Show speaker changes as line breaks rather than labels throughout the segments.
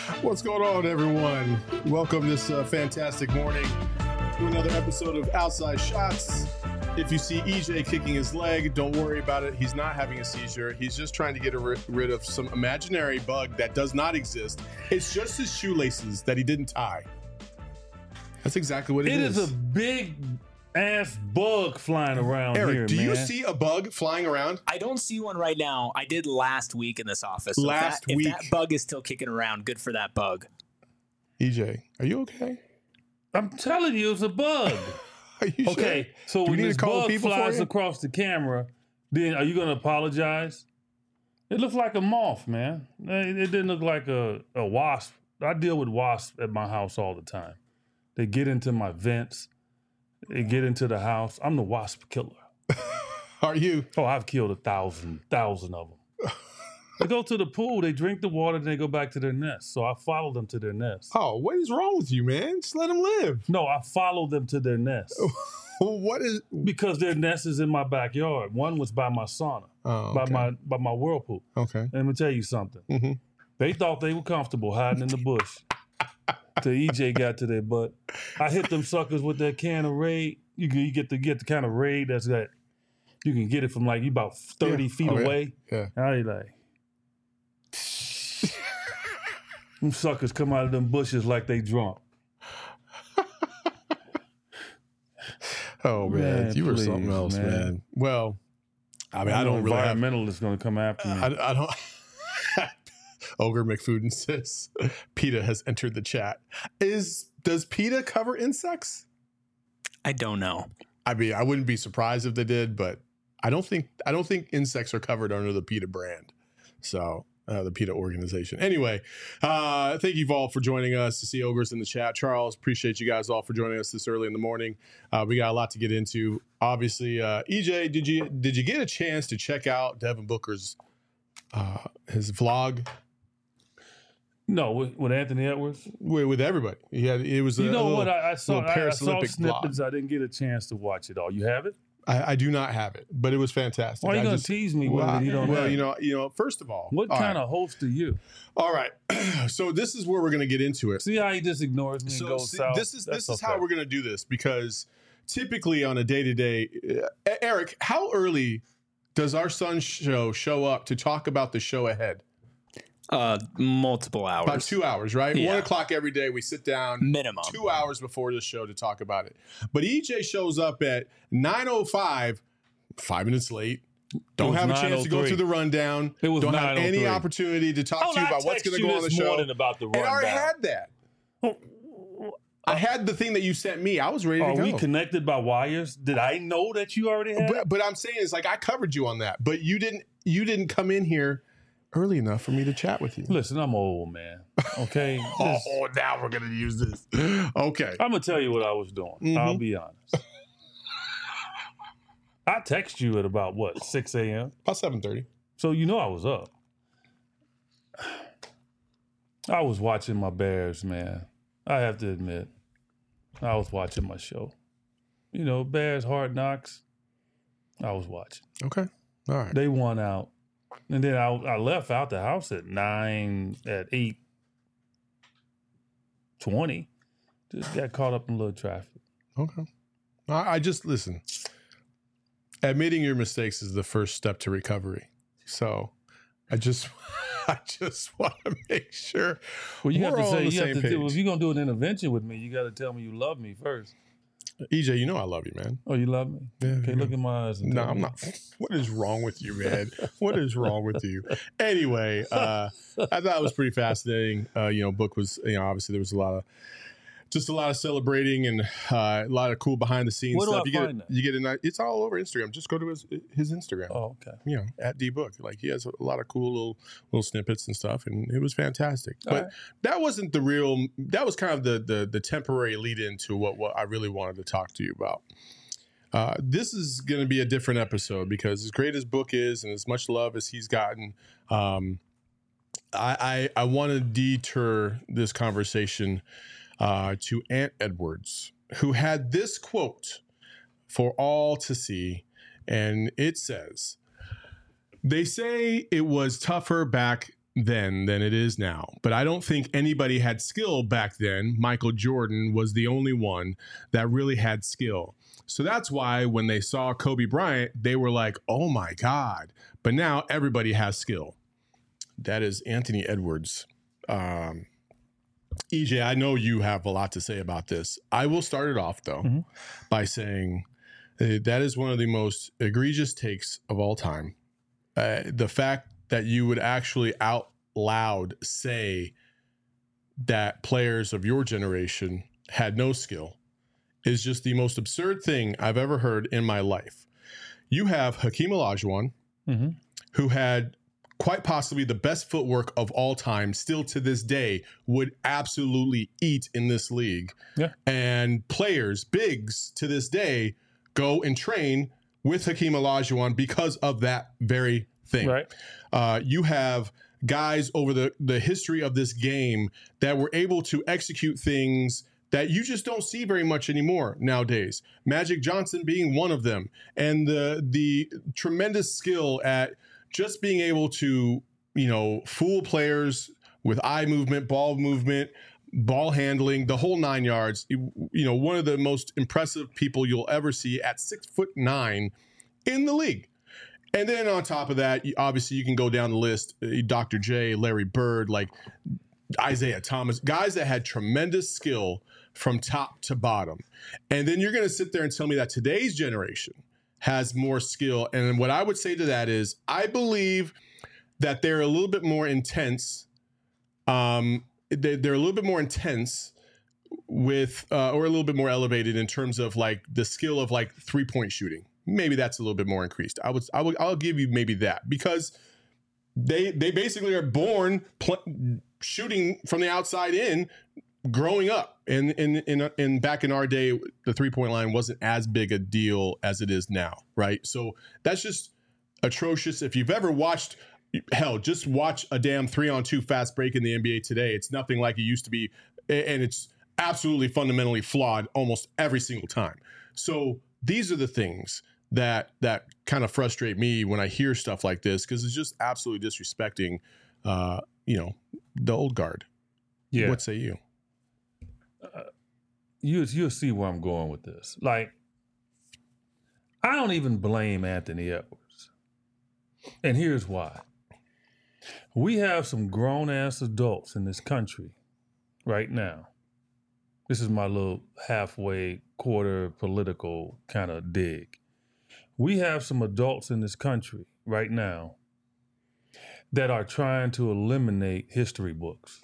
What's going on, everyone? Welcome this fantastic morning to another episode of Outside Shots. If you see EJ kicking his leg, don't worry about it. He's not having a seizure. He's just trying to get rid of some imaginary bug that does not exist. It's just his shoelaces that he didn't tie. That's exactly what it is.
It is a big ass bug flying around
Eric,
here,
do
man.
you see a bug flying around?
I don't see one right now. I did last week in this office. So
If
that bug is still kicking around, good for that bug.
EJ, are you okay?
I'm telling you, it's a bug.
Are you
Okay,
sure?
so
Do we
when
need
this
to call
bug
people for
flies
you?
across the camera, then are you going to apologize? It looks like a moth, man. It didn't look like a wasp. I deal with wasps at my house all the time. They get into my vents. They get into the house. I'm the wasp killer.
Are you?
Oh, I've killed 1,000 of them. They go to the pool, they drink the water, then they go back to their nest. So I follow them to their nest.
Oh, what is wrong with you, man? Just let them live.
No, I follow them to their nest.
What is?
Because their nest is in my backyard. One was by my sauna,
Oh, okay.
by my whirlpool.
Okay.
Let me tell you something.
Mm-hmm.
They thought they were comfortable hiding in the bush. Till EJ got to their butt. I hit them suckers with that can of Raid. You get the kind of Raid that's that you can get it from like you about 30 feet
Oh, yeah.
away.
Yeah.
I like them suckers come out of them bushes like they drunk.
Oh man,
Man,
you were
please,
something else,
man.
man. Well, I mean, I don't really have.
environmentalists gonna come after me.
I don't. Ogre McFoodin says PETA has entered the chat. Does PETA cover insects?
I don't know.
I mean, I wouldn't be surprised if they did, but I don't think insects are covered under the PETA brand. So the PETA organization. Anyway, thank you all for joining us. To see Ogres in the chat, Charles, appreciate you guys all for joining us this early in the morning. We got a lot to get into. Obviously, EJ, did you get a chance to check out Devin Booker's his vlog?
No, with Anthony Edwards.
With everybody. It was.
You know what? I
little
saw
Paris Olympic
snippets.
vlog.
I didn't get a chance to watch it all. You have it?
I do not have it, but it was fantastic.
Why are you
I
gonna
just-
tease me with it? You don't have it?
you know. First of all,
What
all
kind
right.
of host are you?
All right. So this is where we're going to get into it.
See how he just ignores me and
So
goes
see,
south?
this is
That's
how
okay.
we're going to do this, because typically on a day-to-day, Eric, how early does our Sun show up to talk about the show ahead?
Multiple hours.
About 2 hours, right?
Yeah.
1 o'clock every day. We sit down
Minimum.
2 hours before the show to talk about it. But EJ shows up at 9:05, 5 minutes late. Don't
was
have a chance to go
9:03.
through the rundown.
It was
Don't have any
9:03.
opportunity to talk to you
I
about what's
text
going to
you
go on the
this
show.
morning about the
And I already
rundown.
had that. I had the thing that you sent me. I was ready to
Are
go.
we connected by wires? Did I know that you already had it?
But I'm saying is like I covered you on that, but you didn't come in here early enough for me to chat with you.
Listen, I'm old, man. Okay?
Oh, now we're gonna use this. Okay.
I'm going to tell you what I was doing.
Mhm.
I'll be honest. I text you at about, 6 a.m.?
About 7:30.
So you know I was up. I was watching my Bears, man. I have to admit, I was watching my show. You know, Bears, Hard Knocks. I was watching.
Okay. All right.
They won out. And then I left out the house at 8:20. Just got caught up in a little traffic.
Okay. I just listen. Admitting your mistakes is the first step to recovery. So I just want to make sure
Well, you have
we're
to
all
say,
on the
you have
same
to do,
page.
if you're going to do an intervention with me, you got to tell me you love me first.
EJ, you know I love you, man.
Oh, you love me?
Yeah,
Okay,
yeah.
look in my eyes. And
No,
tell
I'm
me.
not. What is wrong with you, man? What is wrong with you? Anyway, I thought it was pretty fascinating. Book was, obviously there was a lot of celebrating and a lot of cool behind the scenes
Where do
stuff.
I find that?
You get it's all over Instagram. Just go to his Instagram.
Oh, okay.
At DBook. Like he has a lot of cool little snippets and stuff, and it was fantastic.
All
But
right.
that wasn't the real. That was kind of the temporary lead into what I really wanted to talk to you about. This is going to be a different episode because as great as Book is and as much love as he's gotten, I want to deter this conversation to Ant Edwards, who had this quote for all to see, and it says, "They say it was tougher back then than it is now. But I don't think anybody had skill back then. Michael Jordan was the only one that really had skill. So that's why when they saw Kobe Bryant, they were like, oh my God. But now everybody has skill. That is Anthony Edwards. EJ, I know you have a lot to say about this. I will start it off, though, by saying that is one of the most egregious takes of all time. The fact that you would actually out loud say that players of your generation had no skill is just the most absurd thing I've ever heard in my life. You have Hakeem Olajuwon, who had quite possibly the best footwork of all time, still to this day, would absolutely eat in this league.
Yeah.
And players, bigs, to this day, go and train with Hakeem Olajuwon because of that very thing.
Right.
You have guys over the history of this game that were able to execute things that you just don't see very much anymore nowadays. Magic Johnson being one of them, and the tremendous skill at just being able to, fool players with eye movement, ball handling, the whole 9 yards. One of the most impressive people you'll ever see at 6'9" in the league. And then on top of that, obviously you can go down the list, Dr. J, Larry Bird, like Isaiah Thomas, guys that had tremendous skill from top to bottom. And then you're going to sit there and tell me that today's generation has more skill. And what I would say to that is I believe that they're a little bit more intense. They're a little bit more intense with, or a little bit more elevated in terms of like the skill of like 3-point shooting. Maybe that's a little bit more increased. I'll give you maybe that, because they basically are born shooting from the outside in, growing up. And back in our day, the 3-point line wasn't as big a deal as it is now, right? So that's just atrocious. If you've ever watched, hell, just watch a damn 3-on-2 fast break in the NBA today. It's nothing like it used to be, and it's absolutely fundamentally flawed almost every single time. So these are the things that kind of frustrate me when I hear stuff like this, because it's just absolutely disrespecting, the old guard.
Yeah.
What say you?
You'll see where I'm going with this. Like, I don't even blame Anthony Edwards. And here's why. We have some grown-ass adults in this country right now. This is my little halfway quarter political kind of dig. We have some adults in this country right now that are trying to eliminate history books.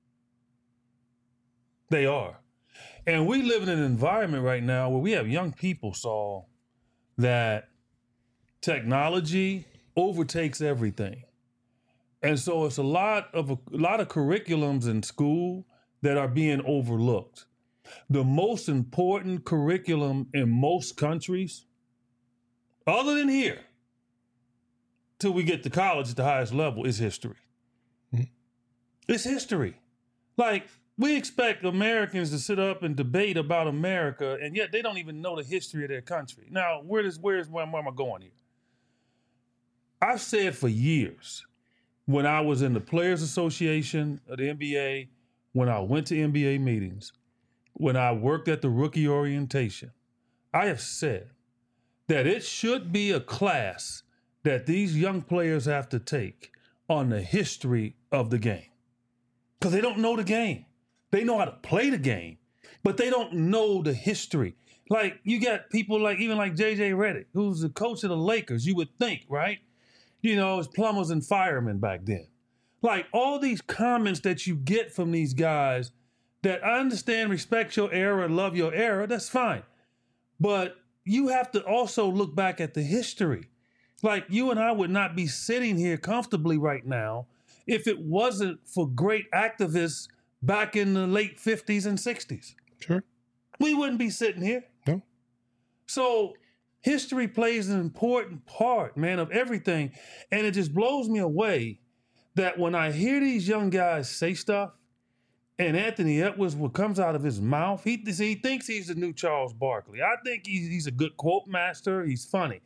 They are. And we live in an environment right now where we have young people, Saul, that technology overtakes everything. And so it's a lot of curriculums in school that are being overlooked. The most important curriculum in most countries, other than here, till we get to college at the highest level, is history. Mm-hmm. It's history. Like, we expect Americans to sit up and debate about America, and yet they don't even know the history of their country. Now, where am I going here? I've said for years, when I was in the Players Association of the NBA, when I went to NBA meetings, when I worked at the rookie orientation, I have said that it should be a class that these young players have to take on the history of the game. Because they don't know the game. They know how to play the game, but they don't know the history. Like, you got people like J.J. Redick, who's the coach of the Lakers, you would think, right? It's plumbers and firemen back then. Like, all these comments that you get from these guys that I understand, respect your era, love your era, that's fine. But you have to also look back at the history. Like, you and I would not be sitting here comfortably right now if it wasn't for great activists back in the late 50s and 60s.
Sure.
We wouldn't be sitting here.
No.
So history plays an important part, man, of everything. And it just blows me away that when I hear these young guys say stuff, and Anthony Edwards, what comes out of his mouth, he thinks he's the new Charles Barkley. I think he's a good quote master. He's funny.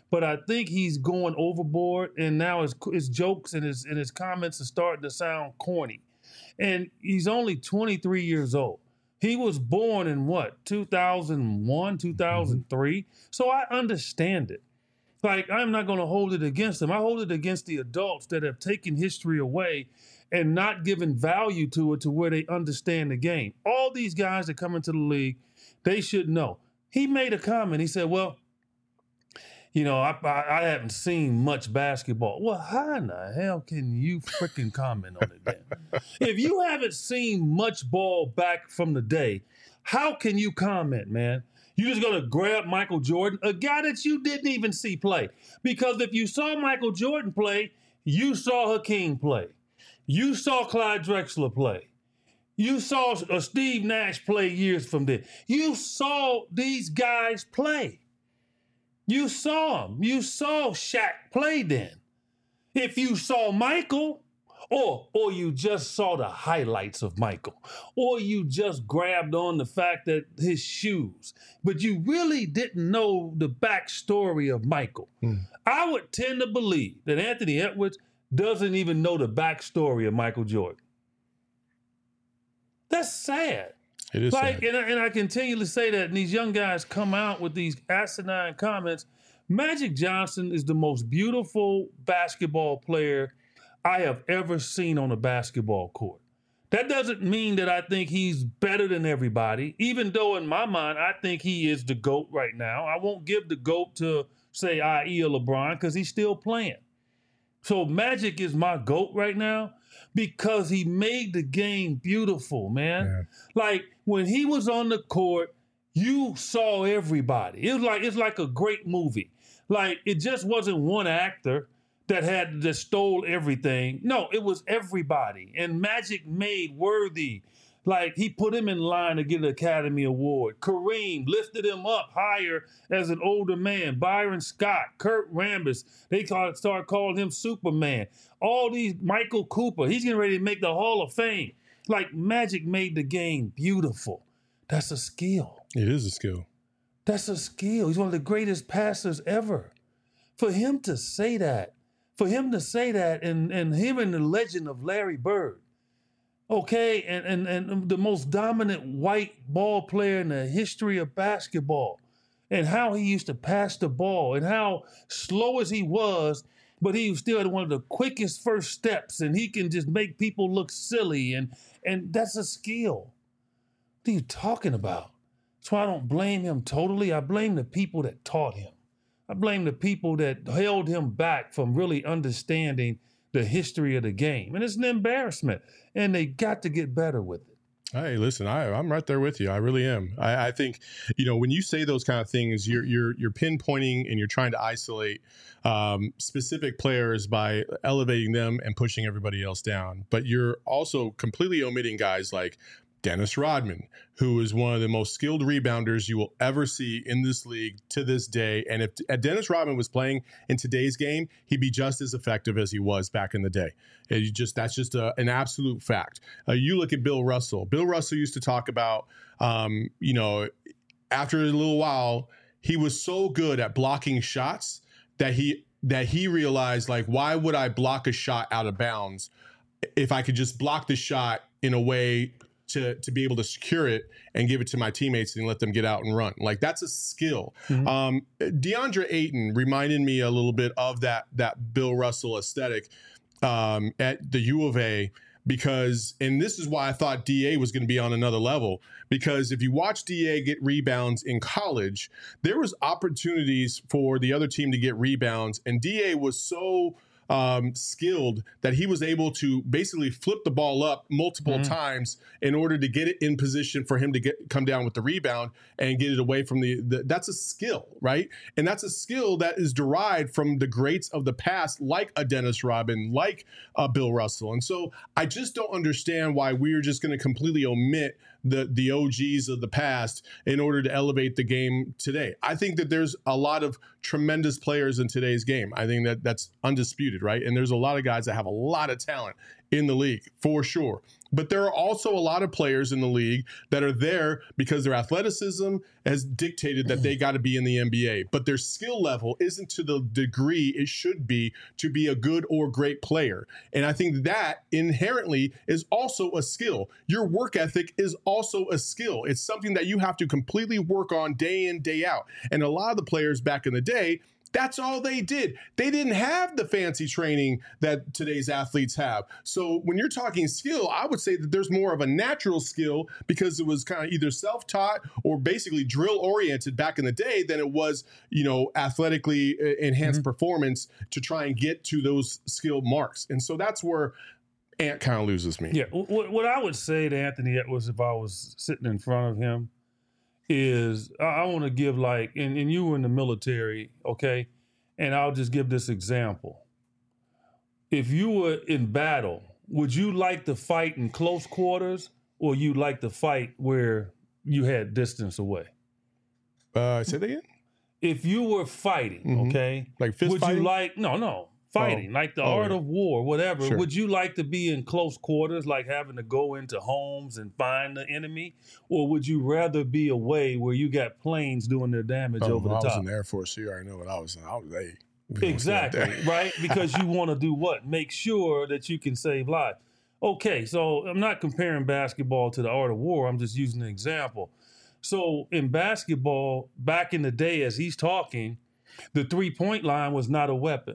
but I think he's going overboard, and now his jokes and his comments are starting to sound corny. And he's only 23 years old. He was born in what, 2001, 2003? So I understand it. Like, I'm not going to hold it against him. I hold it against the adults that have taken history away and not given value to it to where they understand the game. All these guys that come into the league, they should know. He made a comment. He said, well, you know, I haven't seen much basketball. Well, how in the hell can you freaking comment on it then? If you haven't seen much ball back from the day, how can you comment, man? You just gonna grab Michael Jordan, a guy that you didn't even see play. Because if you saw Michael Jordan play, you saw Hakeem play. You saw Clyde Drexler play. You saw Steve Nash play years from then. You saw these guys play. You saw them. You saw Shaq play then. If you saw Michael, or you just saw the highlights of Michael, or you just grabbed on the fact that his shoes, but you really didn't know the backstory of Michael. I would tend to believe that Anthony Edwards doesn't even know the backstory of Michael Jordan. That's sad.
It is sad.
And I continually say that, and these young guys come out with these asinine comments. Magic Johnson is the most beautiful basketball player I have ever seen on a basketball court. That doesn't mean that I think he's better than everybody, even though in my mind, I think he is the GOAT right now. I won't give the GOAT to, say, i.e. LeBron, because he's still playing. So Magic is my GOAT right now because he made the game beautiful, man. Yeah. Like, when he was on the court, you saw everybody. It's like a great movie. Like, it just wasn't one actor that stole everything. No, it was everybody. And Magic made Worthy. Like, he put him in line to get an Academy Award. Kareem lifted him up higher as an older man. Byron Scott, Kurt Rambis, they started calling him Superman. All these, Michael Cooper, he's getting ready to make the Hall of Fame. Like, Magic made the game beautiful. That's a skill.
It is a skill.
That's a skill. He's one of the greatest passers ever. For him to say that, and him and the legend of Larry Bird, okay, and the most dominant white ball player in the history of basketball, and how he used to pass the ball, and how slow as he was, but he still had one of the quickest first steps, and he can just make people look silly, and that's a skill. What are you talking about? That's why I don't blame him totally. I blame the people that taught him. I blame the people that held him back from really understanding the history of the game. And it's an embarrassment. And they got to get better with it.
Hey, listen, I'm right there with you. I really am. I think, when you say those kind of things, you're pinpointing and you're trying to isolate specific players by elevating them and pushing everybody else down. But you're also completely omitting guys like Dennis Rodman, who is one of the most skilled rebounders you will ever see in this league to this day. And if Dennis Rodman was playing in today's game, he'd be just as effective as he was back in the day. That's just an absolute fact. You look at Bill Russell. Bill Russell used to talk about, after a little while, he was so good at blocking shots that he realized, like, why would I block a shot out of bounds if I could just block the shot in a way to be able to secure it and give it to my teammates and let them get out and run. Like, that's a skill. Mm-hmm. DeAndre Ayton reminded me a little bit of that Bill Russell aesthetic at the U of A, because, and this is why I thought DA was going to be on another level, because if you watch DA get rebounds in college, there was opportunities for the other team to get rebounds, and DA was so skilled that he was able to basically flip the ball up multiple times in order to get it in position for him to come down with the rebound and get it away from that's a skill, right? And that's a skill that is derived from the greats of the past, like a Dennis Rodman, like Bill Russell. And so I just don't understand why we're just going to completely omit the OGs of the past in order to elevate the game today. I think that there's a lot of tremendous players in today's game. I think that's undisputed, right? And there's a lot of guys that have a lot of talent in the league, for sure. But there are also a lot of players in the league that are there because their athleticism has dictated that they got to be in the NBA. But their skill level isn't to the degree it should be to be a good or great player. And I think that inherently is also a skill. Your work ethic is also a skill. It's something that you have to completely work on day in, day out. And a lot of the players back in the day, that's all they did. They didn't have the fancy training that today's athletes have. So when you're talking skill, I would say that there's more of a natural skill because it was kind of either self-taught or basically drill-oriented back in the day than it was, athletically enhanced performance to try and get to those skill marks. And so that's where Ant kind of loses me.
Yeah. What I would say to Anthony Edwards if I was sitting in front of him is I want to give and you were in the military, okay? And I'll just give this example. If you were in battle, would you like to fight in close quarters or you like to fight where you had distance away?
Say that again?
If you were fighting, okay?
Like fist
would
fighting?
you like, no. Fighting, like the art of war, whatever.
Sure.
Would you like to be in close quarters, like having to go into homes and find the enemy? Or would you rather be away where you got planes doing their damage over the top?
I was in the Air Force, so you already know what I was in.
Exactly, right? Because you want to do what? Make sure that you can save lives. Okay, so I'm not comparing basketball to the art of war. I'm just using an example. So in basketball, back in the day, as he's talking, the three-point line was not a weapon.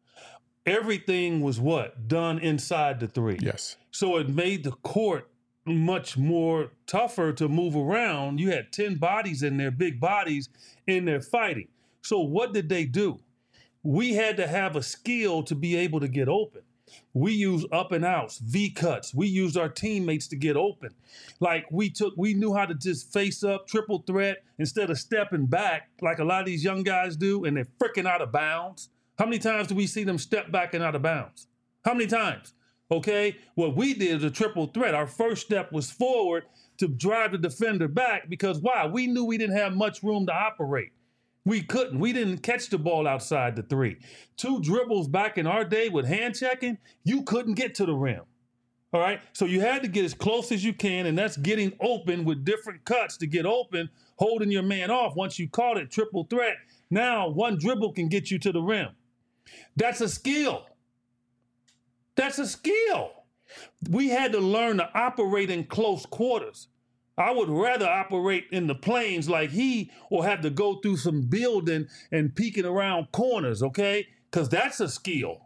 Everything was what? Done inside the three.
Yes.
So it made the court much more tougher to move around. You had 10 bodies in there, big bodies in there fighting. So what did they do? We had to have a skill to be able to get open. We used up and outs, V cuts. We used our teammates to get open. Like we knew how to just face up, triple threat, instead of stepping back like a lot of these young guys do, and they're freaking out of bounds. How many times do we see them step back and out of bounds? How many times? Okay, what we did is a triple threat. Our first step was forward to drive the defender back because why? We knew we didn't have much room to operate. We couldn't. We didn't catch the ball outside the three. 2 dribbles back in our day with hand checking, you couldn't get to the rim. All right, so you had to get as close as you can, and that's getting open with different cuts to get open, holding your man off. Once you caught it, triple threat, now 1 dribble can get you to the rim. That's a skill. That's a skill. We had to learn to operate in close quarters. I would rather operate in the plains like he or have to go through some building and peeking around corners, okay? Because that's a skill.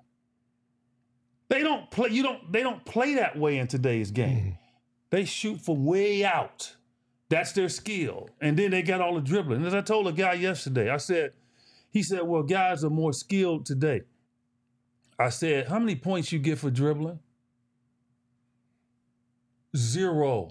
They don't play that way in today's game. They shoot from way out. That's their skill. And then they got all the dribbling. As I told a guy yesterday, he said, well, guys are more skilled today. I said, how many points you get for dribbling? 0.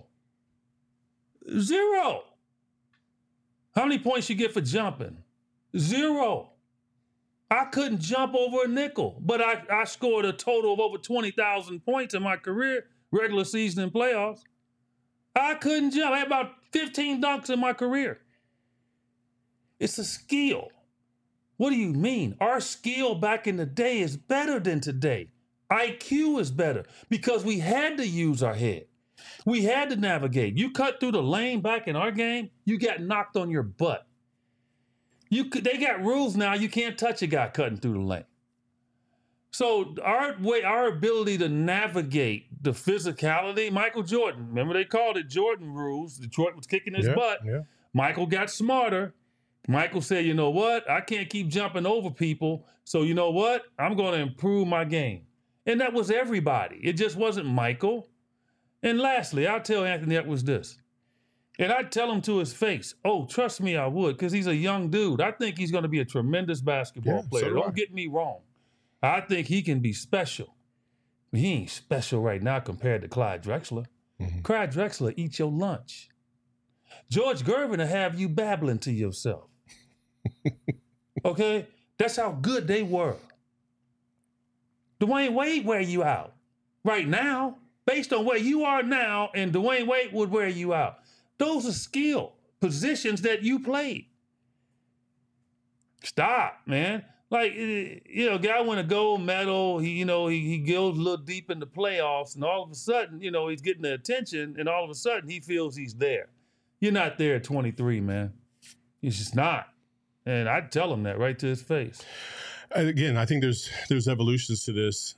0. How many points you get for jumping? 0. I couldn't jump over a nickel, but I scored a total of over 20,000 points in my career, regular season and playoffs. I couldn't jump. I had about 15 dunks in my career. It's a skill. What do you mean? Our skill back in the day is better than today. IQ is better because we had to use our head. We had to navigate. You cut through the lane back in our game, you got knocked on your butt. They got rules now. You can't touch a guy cutting through the lane. So our ability to navigate the physicality, Michael Jordan, remember they called it Jordan rules. Detroit was kicking his butt. Yeah. Michael got smarter. Michael said, you know what? I can't keep jumping over people. So you know what? I'm going to improve my game. And that was everybody. It just wasn't Michael. And lastly, I'll tell Anthony Edwards this. And I'd tell him to his face, oh, trust me, I would, because he's a young dude. I think he's going to be a tremendous basketball player. So don't get me wrong. I think he can be special. He ain't special right now compared to Clyde Drexler. Mm-hmm. Clyde Drexler eat your lunch. George Gervin will have you babbling to yourself. Okay? That's how good they were. Dwayne Wade wear you out. Right now, based on where you are now, and Dwayne Wade would wear you out. Those are skill positions that you played. Stop, man. Like, guy win a gold medal. He goes a little deep in the playoffs, and all of a sudden, he's getting the attention, and all of a sudden he feels he's there. You're not there at 23, man. He's just not. And I'd tell him that right to his face.
Again, I think there's evolutions to this.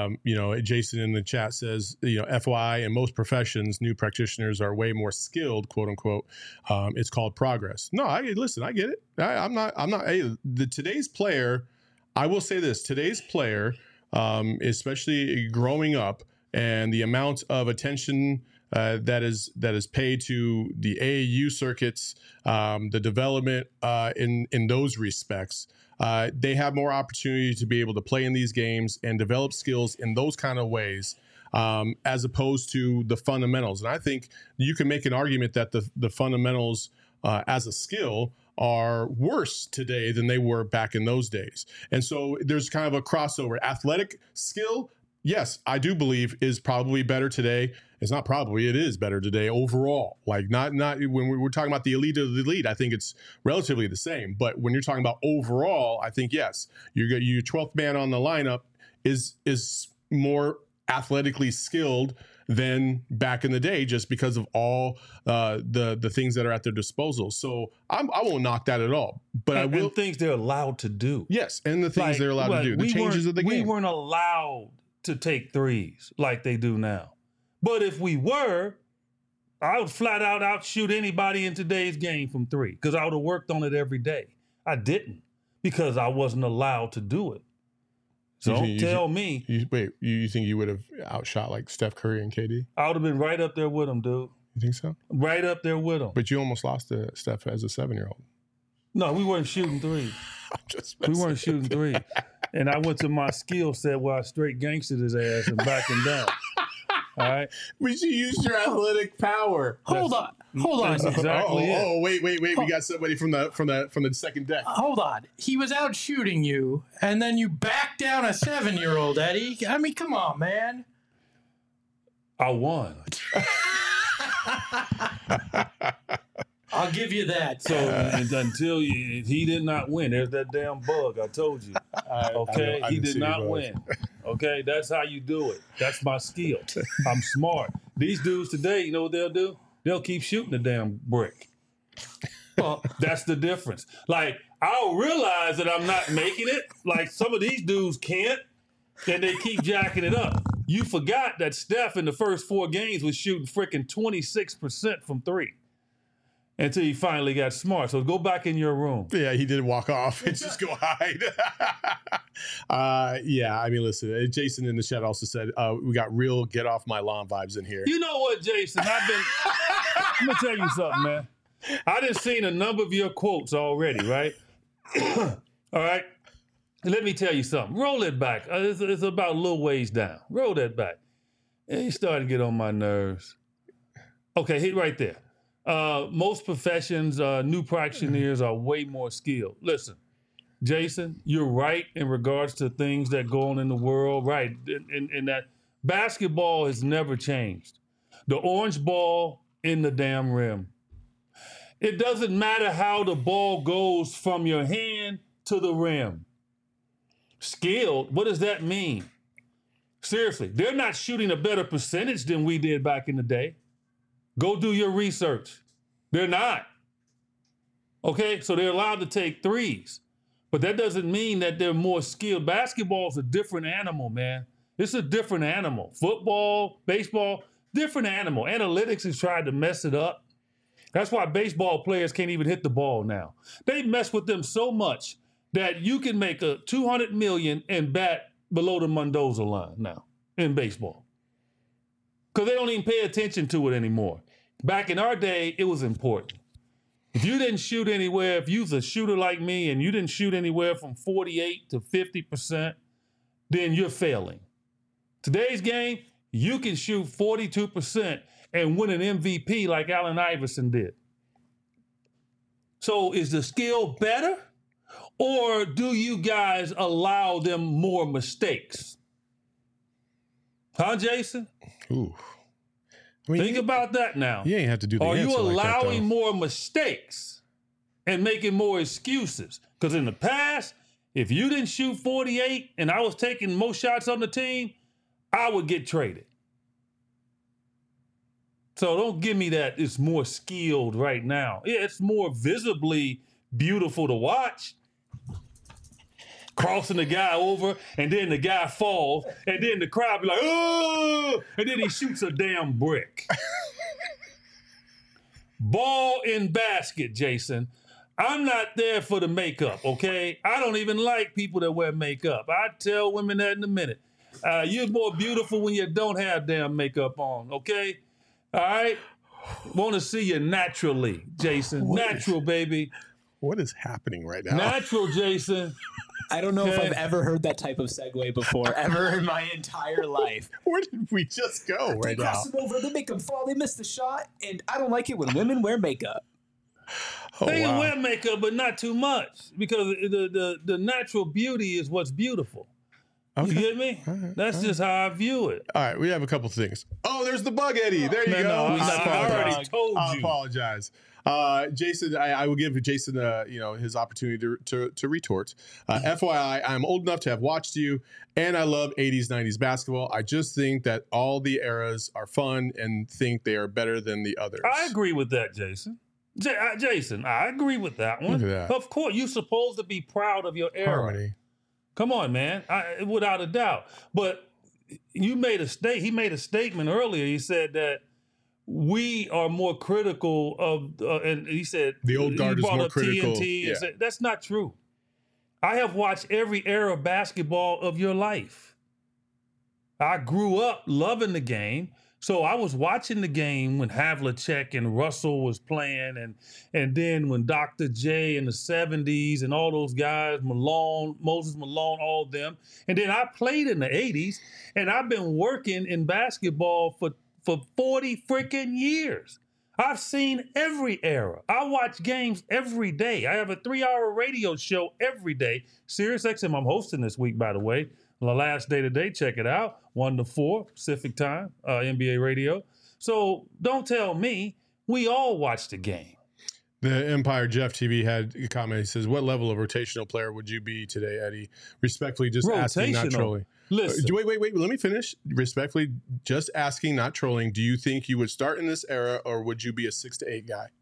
Jason in the chat says, FY in most professions, new practitioners are way more skilled, quote unquote. It's called progress. No, I get it. I'm not. Today's player, I will say this: today's player, especially growing up, and the amount of attention that is paid to the AAU circuits, the development in those respects. They have more opportunity to be able to play in these games and develop skills in those kind of ways, as opposed to the fundamentals. And I think you can make an argument that the fundamentals as a skill are worse today than they were back in those days. And so there's kind of a crossover. Athletic skill, yes, I do believe is probably better today. It's not probably, it is better today overall. Like not when we're talking about the elite of the elite, I think it's relatively the same. But when you're talking about overall, I think, yes, your 12th man on the lineup is more athletically skilled than back in the day, just because of all the things that are at their disposal. So I won't knock that at all. But I will.
And things they're allowed to do.
Yes, and the things they're allowed to do. The changes of the game.
We weren't allowed to take threes like they do now. But if we were, I would flat out outshoot anybody in today's game from three because I would have worked on it every day. I didn't because I wasn't allowed to do it. So don't tell me.
You think you would have outshot like Steph Curry and KD?
I would have been right up there with them, dude.
You think so?
Right up there with them.
But you almost lost to Steph as a 7-year-old.
No, we weren't shooting threes. We weren't shooting threes. And I went to my skill set where I straight gangstered his ass and backed him down. All right.
But you used your athletic power.
Hold on.
That's exactly it.
Wait. We got somebody from the second deck.
Hold on. He was out shooting you, and then you backed down a 7-year-old, Eddie. I mean, come on, man.
I won.
I'll give you that.
So until he did not win, there's that damn bug I told you. Okay, he did not win. Okay, that's how you do it. That's my skill. I'm smart. These dudes today, you know what they'll do? They'll keep shooting the damn brick. Well, that's the difference. Like, I'll realize that I'm not making it. Like, some of these dudes can't, and they keep jacking it up. You forgot that Steph in the first 4 games was shooting freaking 26% from three. Until he finally got smart. So go back in your room.
Yeah, he did walk off and just go hide. Yeah, I mean, listen, Jason in the chat also said, we got real get off my lawn vibes in here.
You know what, Jason? I'm going to tell you something, man. I done seen a number of your quotes already, right? All right? Let me tell you something. Roll it back. It's about a little ways down. Roll that back. And you starting to get on my nerves. Okay, hit right there. Most professions, new practitioners are way more skilled. Listen, Jason, you're right in regards to things that go on in the world, right? And that basketball has never changed. The orange ball in the damn rim. It doesn't matter how the ball goes from your hand to the rim. Skilled, what does that mean? Seriously, they're not shooting a better percentage than we did back in the day. Go do your research. They're not. Okay, so they're allowed to take threes. But that doesn't mean that they're more skilled. Basketball is a different animal, man. It's a different animal. Football, baseball, different animal. Analytics has tried to mess it up. That's why baseball players can't even hit the ball now. They mess with them so much that you can make a $200 million and bat below the Mendoza line now in baseball. Because they don't even pay attention to it anymore. Back in our day, it was important. If you didn't shoot anywhere, if you was a shooter like me and you didn't shoot anywhere from 48 to 50%, then you're failing. Today's game, you can shoot 42% and win an MVP like Allen Iverson did. So is the skill better? Or do you guys allow them more mistakes? Huh, Jason?
Ooh. I mean,
think about that now.
You ain't have to do the
Are
answer
you
like that,
allowing
though.
more mistakes and making more excuses? Because in the past, If you didn't shoot 48 and I was taking most shots on the team, I would get traded. So don't give me that it's more skilled right now. Yeah, it's more visibly beautiful to watch. Crossing the guy over, and then the guy falls, and then the crowd be like, oh, and then he shoots a damn brick. Ball in basket, Jason. I'm not there for the makeup, okay? I don't even like people that wear makeup. I tell women that in a minute. You're more beautiful when you don't have damn makeup on, okay? All right? Want to see you naturally, Jason. Natural, baby.
What is happening right now?
Natural, Jason.
I don't know if
Okay.
I've ever heard that type of segue before, ever in my entire life.
Where did we just go
They
right now?
cross them over, they make them fall, they miss the shot, and I don't like it when women wear makeup.
Oh,
They can
wow.
wear makeup, but not too much, because the natural beauty is what's beautiful.
Okay.
You get me? That's just how I view it.
All right, we have a couple things. Oh, there's the bug, Eddie. There you
Man,
go.
no, I already told
I
you.
apologize. Jason, I will give Jason, his opportunity to retort. FYI, I'm old enough to have watched you, and I love 80s, 90s basketball. I just think that all the eras are fun and think they are better than the others.
I agree with that, Jason. Jason, I agree with that one.
Look at that.
Of course, you're supposed to be proud of your era.
Harmony.
Come on, man. Without a doubt. But he made a statement earlier. He said that we are more critical of, and he said
The old guard
he
is
brought
more
up
critical.
TNT and
Yeah.
said, that's not true. I have watched every era of basketball of your life. I grew up loving the game. So I was watching the game when Havlicek and Russell was playing, and then when Dr. J in the 70s and all those guys, Malone, Moses Malone, all of them. And then I played in the 80s, and I've been working in basketball for 40 freaking years. I've seen every era. I watch games every day. I have a 3-hour radio show every day. SiriusXM, I'm hosting this week, by the way. The last day today, check it out. 1 to 4 Pacific time, NBA radio. So don't tell me we all watch the game.
The Empire Jeff TV had a comment. He says, "What level of rotational player would you be today, Eddie?" Respectfully, just asking, not
Rotational.
trolling.
Listen,
Wait. Let me finish. Respectfully, just asking, not trolling. Do you think you would start in this era, or would you be a 6 to 8 guy?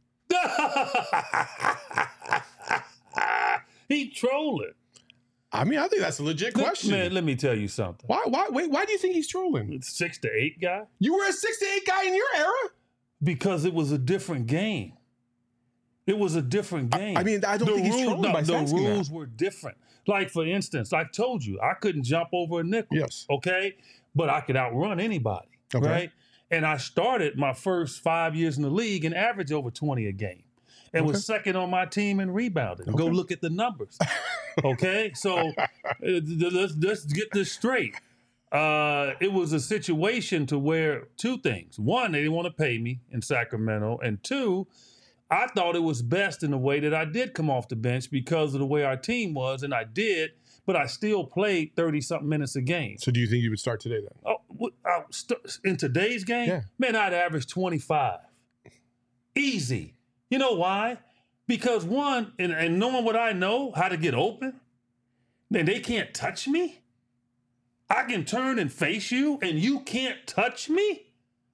he trolling.
I mean, I think that's a legit question.
Man, let me tell you something.
Why? Wait, why do you think he's trolling?
6 to 8 guy?
You were a 6 to 8 guy in your era.
Because it was a different game. It was a different game.
I mean, I don't think he's trolling by
the
asking that.
rules were different. Like, for instance, I told you, I couldn't jump over a nickel.
Yes.
Okay? But I could outrun anybody.
Okay.
Right? And I started my first 5 years in the league and averaged over 20 a game. And was second on my team in rebounding. Go look at the numbers. Okay? So let's get this straight. It was a situation to where 2 things. 1, they didn't want to pay me in Sacramento. And 2, I thought it was best in the way that I did come off the bench because of the way our team was. And I did, but I still played 30-something minutes a game.
So do you think you would start today then?
In today's game,
Yeah.
man, I'd average 25. Easy. You know why? Because 1, and knowing what I know, how to get open, then they can't touch me. I can turn and face you, and you can't touch me?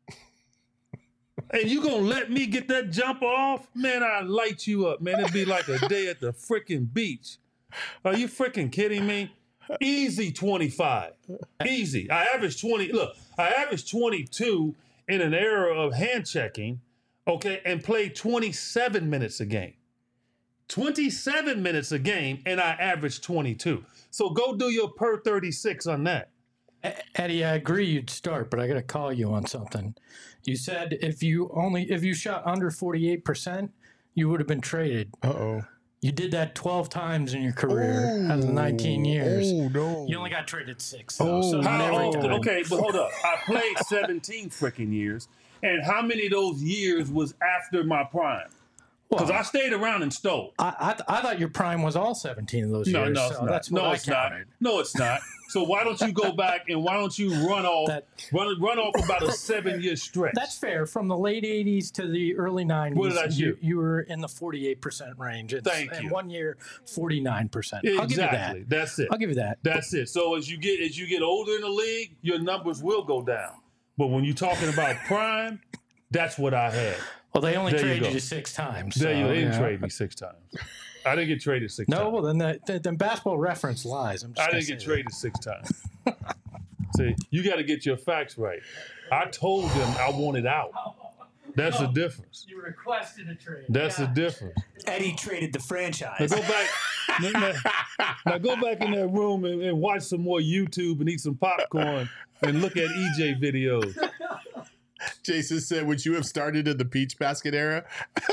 And you gonna let me get that jumper off? Man, I'd light you up, man. It'd be like a day at the freaking beach. Are you freaking kidding me? Easy 25. Easy. I averaged 20. Look, I averaged 22 in an era of hand checking, okay, and played 27 minutes a game. 27 minutes a game, and I averaged 22. So go do your per 36 on that.
Eddie, I agree you'd start, but I got to call you on something. You said if you shot under 48%, you would have been traded.
Uh-oh.
You did that 12 times in your career out of 19 years.
Oh, no.
You only got traded 6, though. So not
How
every
old?
time.
Okay, but hold up. I played 17 freaking years. And how many of those years was after my prime? Because I stayed around and stole.
I thought your prime was all 17 of those
No,
years.
no, it's
so
not.
That's what
No,
I
it's not.
counted.
No, it's not. So why don't you go back and why don't you run off about a 7-year stretch?
That's fair. From the late 80s to the early 90s,
What did I shoot?
you were in the 48% range.
Thank
and
you.
1 year, 49%.
Exactly.
I'll give you that.
That's it.
I'll give you that.
That's it. So as you get older in the league, your numbers will go down. But when you're talking about prime, that's what I had.
Well, they only
There you
traded
go.
you 6 times.
They
so,
didn't
yeah.
trade me 6 times. I didn't get traded 6 times.
No, well, then Basketball Reference lies. I'm just
I
gonna
didn't get
say
traded 6 times. See, you got to get your facts right. I told them I wanted out. That's the difference.
that. You requested a trade.
That's the difference.
Eddie traded the
Now
franchise.
go back. now go back in that room and watch some more YouTube and eat some popcorn and look at EJ videos.
Jason said, would you have started in the peach basket era?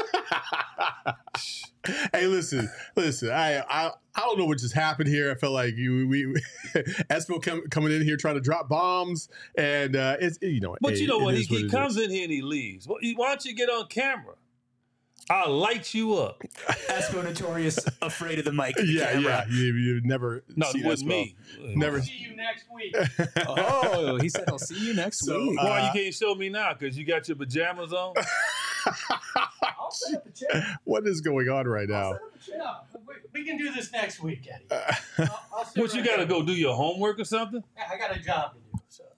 Hey, listen. I don't know what just happened here. I felt like we Espo coming in here trying to drop bombs, and it's
But
hey,
you know what?
it is
He
it
comes
is.
in here and he leaves. Well, why don't you get on camera? I'll light you up.
Espo notorious, afraid of the mic. And the
Yeah,
camera.
you've never
No,
seen
with
Espo.
me.
Never.
See you next week.
Oh, he said he'll see you next
So,
week.
Why you can't show me now? Because you got your pajamas on?
I'll set up a chair.
What is going on right now?
No, we can do this next week, Eddie. I'll sit
What, you
right
got to
here.
go do your homework or something?
I got a job to do. So.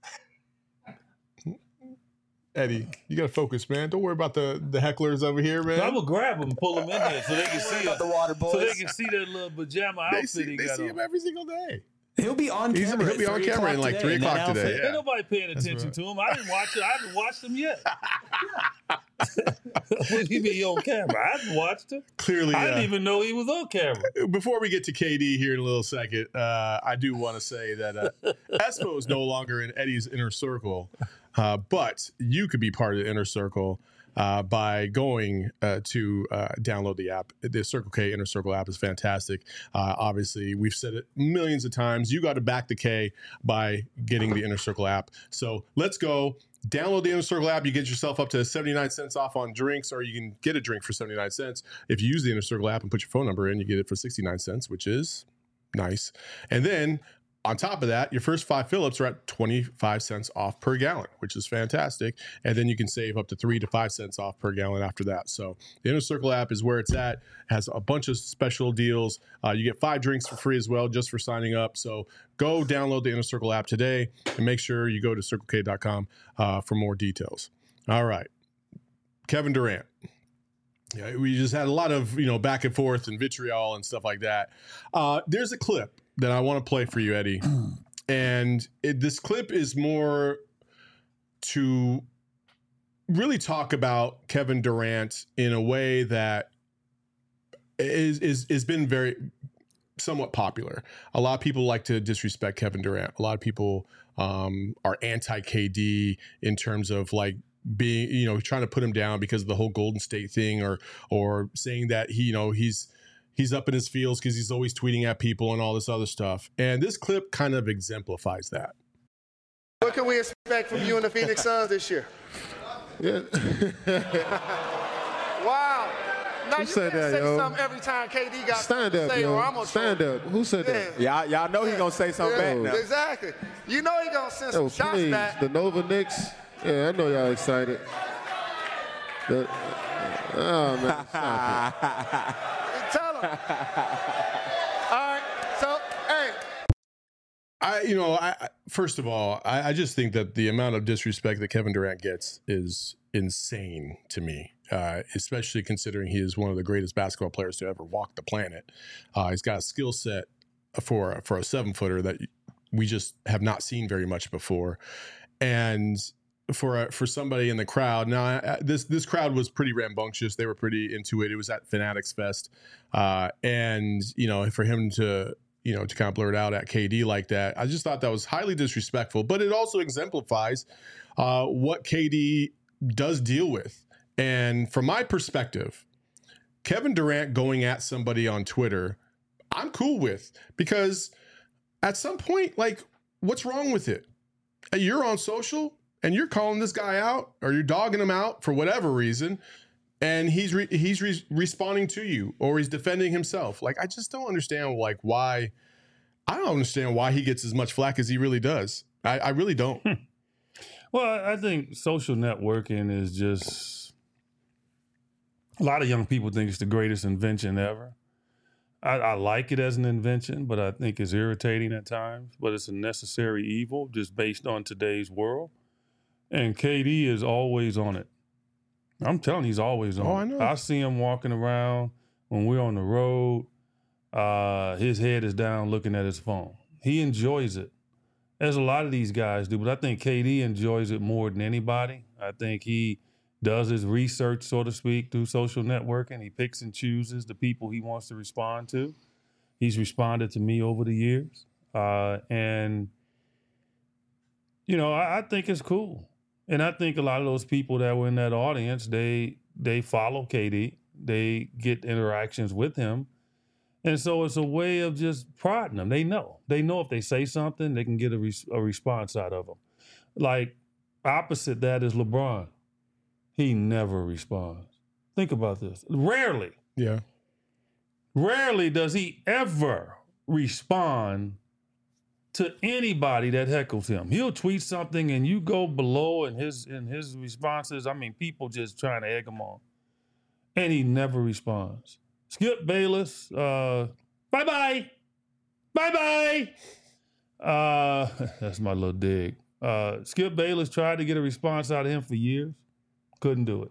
Eddie, you gotta focus, man. Don't worry about the hecklers over here, man.
I will grab them and pull them in here so they can
Don't worry
see
about the water
so they
boys.
can see that little pajama
they
outfit
see,
he
they
got
see
on.
him every single day.
He'll be on
He'll
camera.
be
at
on
3
camera in
o'clock
like 3
today in that
o'clock today.
outfit.
Yeah.
Ain't nobody paying attention
right.
to him. I haven't watched them yet. When he be on camera, I haven't watched him.
Clearly,
I didn't even know he was on camera.
before we get to KD here in a little second, I do want to say that Espo is no longer in Eddie's inner circle, but you could be part of the inner circle by going to download the app. The Circle K Inner Circle app is fantastic. Obviously, we've said it millions of times. You got to back the K by getting the Inner Circle app. So let's go. Download the Inner Circle app. You get yourself up to 79 cents off on drinks, or you can get a drink for 79 cents. If you use the Inner Circle app and put your phone number in, you get it for 69 cents, which is nice. And then on top of that, your first 5 fill-ups are at 25 cents off per gallon, which is fantastic. And then you can save up to 3 to 5 cents off per gallon after that. So the Inner Circle app is where it's at. It has a bunch of special deals. You get 5 drinks for free as well, just for signing up. So go download the Inner Circle app today and make sure you go to CircleK.com for more details. All right. Kevin Durant. Yeah, we just had a lot of, back and forth and vitriol and stuff like that. There's a clip that I want to play for you, Eddie. And this clip is more to really talk about Kevin Durant in a way that is been very somewhat popular. A lot of people like to disrespect Kevin Durant. A lot of people are anti-KD in terms of like being, trying to put him down because of the whole Golden State thing, or saying that he's up in his feels because he's always tweeting at people and all this other stuff. And this clip kind of exemplifies that.
What can we expect from you and the Phoenix Suns this year?
Yeah.
Wow. Now you
said
can't
that,
say
yo?
something every time KD got
Stand
something
up,
to say, or I'm
yo.
gonna
Stand
troll
up. Who said that?
you.
Y'all know he gonna say something back now.
Exactly. You know he gonna send
Yo,
some shots
please.
back.
The Nova Knicks. Yeah, I know y'all excited. Oh, man. Stop
Tell him. All right. So, hey.
I first of all, I just think that the amount of disrespect that Kevin Durant gets is insane to me, especially considering he is one of the greatest basketball players to ever walk the planet. He's got a skill set for a 7-footer that we just have not seen very much before. And for somebody in the crowd, now this crowd was pretty rambunctious. They were pretty into it. It was at Fanatics Fest, and for him to kind of blurt out at KD like that, I just thought that was highly disrespectful. But it also exemplifies what KD does deal with. And from my perspective, Kevin Durant going at somebody on Twitter, I'm cool with, because at some point, like, what's wrong with it? You're on social and you're calling this guy out, or you're dogging him out for whatever reason. and he's responding to you, or he's defending himself. Like, I just don't understand why. I don't understand why he gets as much flack as he really does. I really don't.
Well, I think social networking is just, a lot of young people think it's the greatest invention ever. I like it as an invention, but I think it's irritating at times. But it's a necessary evil just based on today's world. And KD is always on it. I'm telling you, he's always on it.
I know.
I see him walking around when we're on the road. His head is down looking at his phone. He enjoys it, as a lot of these guys do. But I think KD enjoys it more than anybody. I think he does his research, so to speak, through social networking. He picks and chooses the people he wants to respond to. He's responded to me over the years. And, you know, I think it's cool. And I think a lot of those people that were in that audience, they follow KD. They get interactions with him. And so it's a way of just prodding them. They know if they say something, they can get a response out of them. Like, opposite that is LeBron. He never responds. Think about this. Rarely does he ever respond to anybody that heckles him. He'll tweet something and you go below and his responses, I mean, people just trying to egg him on. And he never responds. Skip Bayless, bye-bye. Bye-bye. That's my little dig. Skip Bayless tried to get a response out of him for years. Couldn't do it.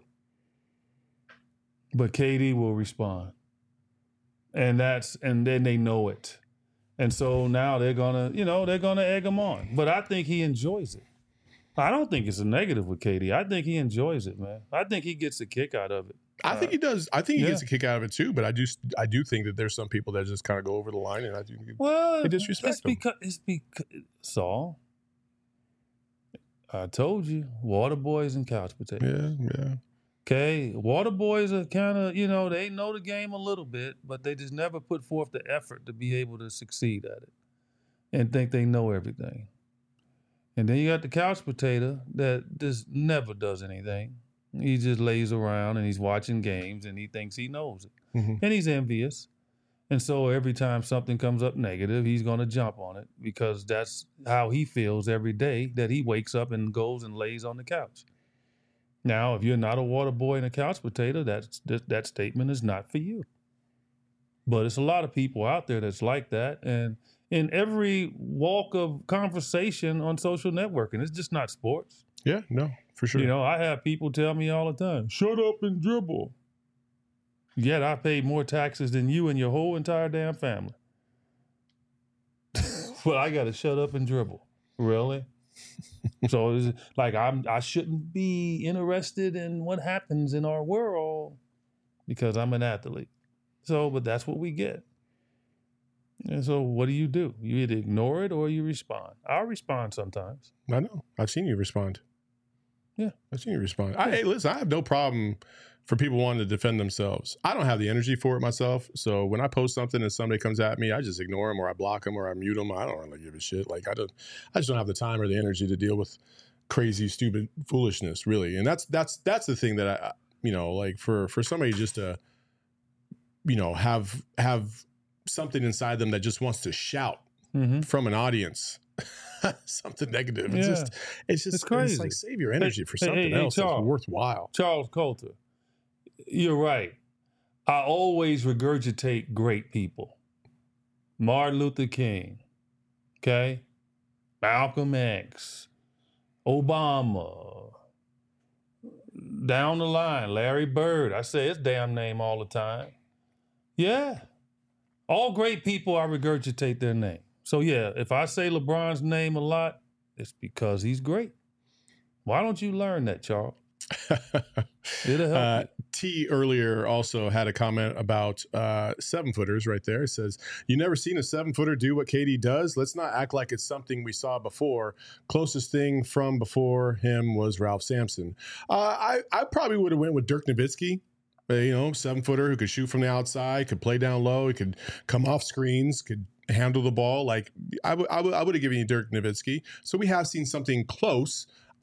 But KD will respond. And then they know it. And so now they're gonna egg him on. But I think he enjoys it. I don't think it's a negative with KD. I think he enjoys it, man. I think he gets a kick out of it.
I think he does. I think he gets a kick out of it too. But I do think that there's some people that just kind of go over the line, and I do they disrespect him.
It's because Saul. I told you, water boys and couch potatoes.
Yeah.
Okay, water boys are kind of, they know the game a little bit, but they just never put forth the effort to be able to succeed at it and think they know everything. And then you got the couch potato that just never does anything. He just lays around and he's watching games and he thinks he knows it.
Mm-hmm.
And he's envious. And so every time something comes up negative, he's going to jump on it because that's how he feels every day that he wakes up and goes and lays on the couch. Now, if you're not a water boy and a couch potato, that statement is not for you. But it's a lot of people out there that's like that. And in every walk of conversation on social networking, it's just not sports.
Yeah, no, for sure.
I have people tell me all the time, shut up and dribble. Yet I paid more taxes than you and your whole entire damn family. But I got to shut up and dribble. Really? So it's like I shouldn't be interested in what happens in our world because I'm an athlete. So, but that's what we get. And so what do? You either ignore it or you respond. I'll respond sometimes.
I know. I've seen you respond.
Yeah.
I've seen you respond. Hey, listen, I have no problem for people wanting to defend themselves. I don't have the energy for it myself. So when I post something and somebody comes at me, I just ignore them or I block them or I mute them. I don't really give a shit. Like I just don't have the time or the energy to deal with crazy, stupid foolishness, really. And that's the thing that I like for somebody just to, have something inside them that just wants to shout from an audience. Something negative.
Yeah.
It's crazy. It's like save your energy for something else that's worthwhile.
Charles Coulter, you're right. I always regurgitate great people. Martin Luther King, okay? Malcolm X, Obama, down the line, Larry Bird. I say his damn name all the time. Yeah. All great people, I regurgitate their name. So, yeah, if I say LeBron's name a lot, it's because he's great. Why don't you learn that, Charles? It'll help you.
T earlier also had a comment about 7-footers right there. It says, you never seen a 7-footer do what KD does? Let's not act like it's something we saw before. Closest thing from before him was Ralph Sampson. I probably would have went with Dirk Nowitzki. 7-footer who could shoot from the outside, could play down low, he could come off screens, could handle the ball. Like I would have given you Dirk Nowitzki. So we have seen something close.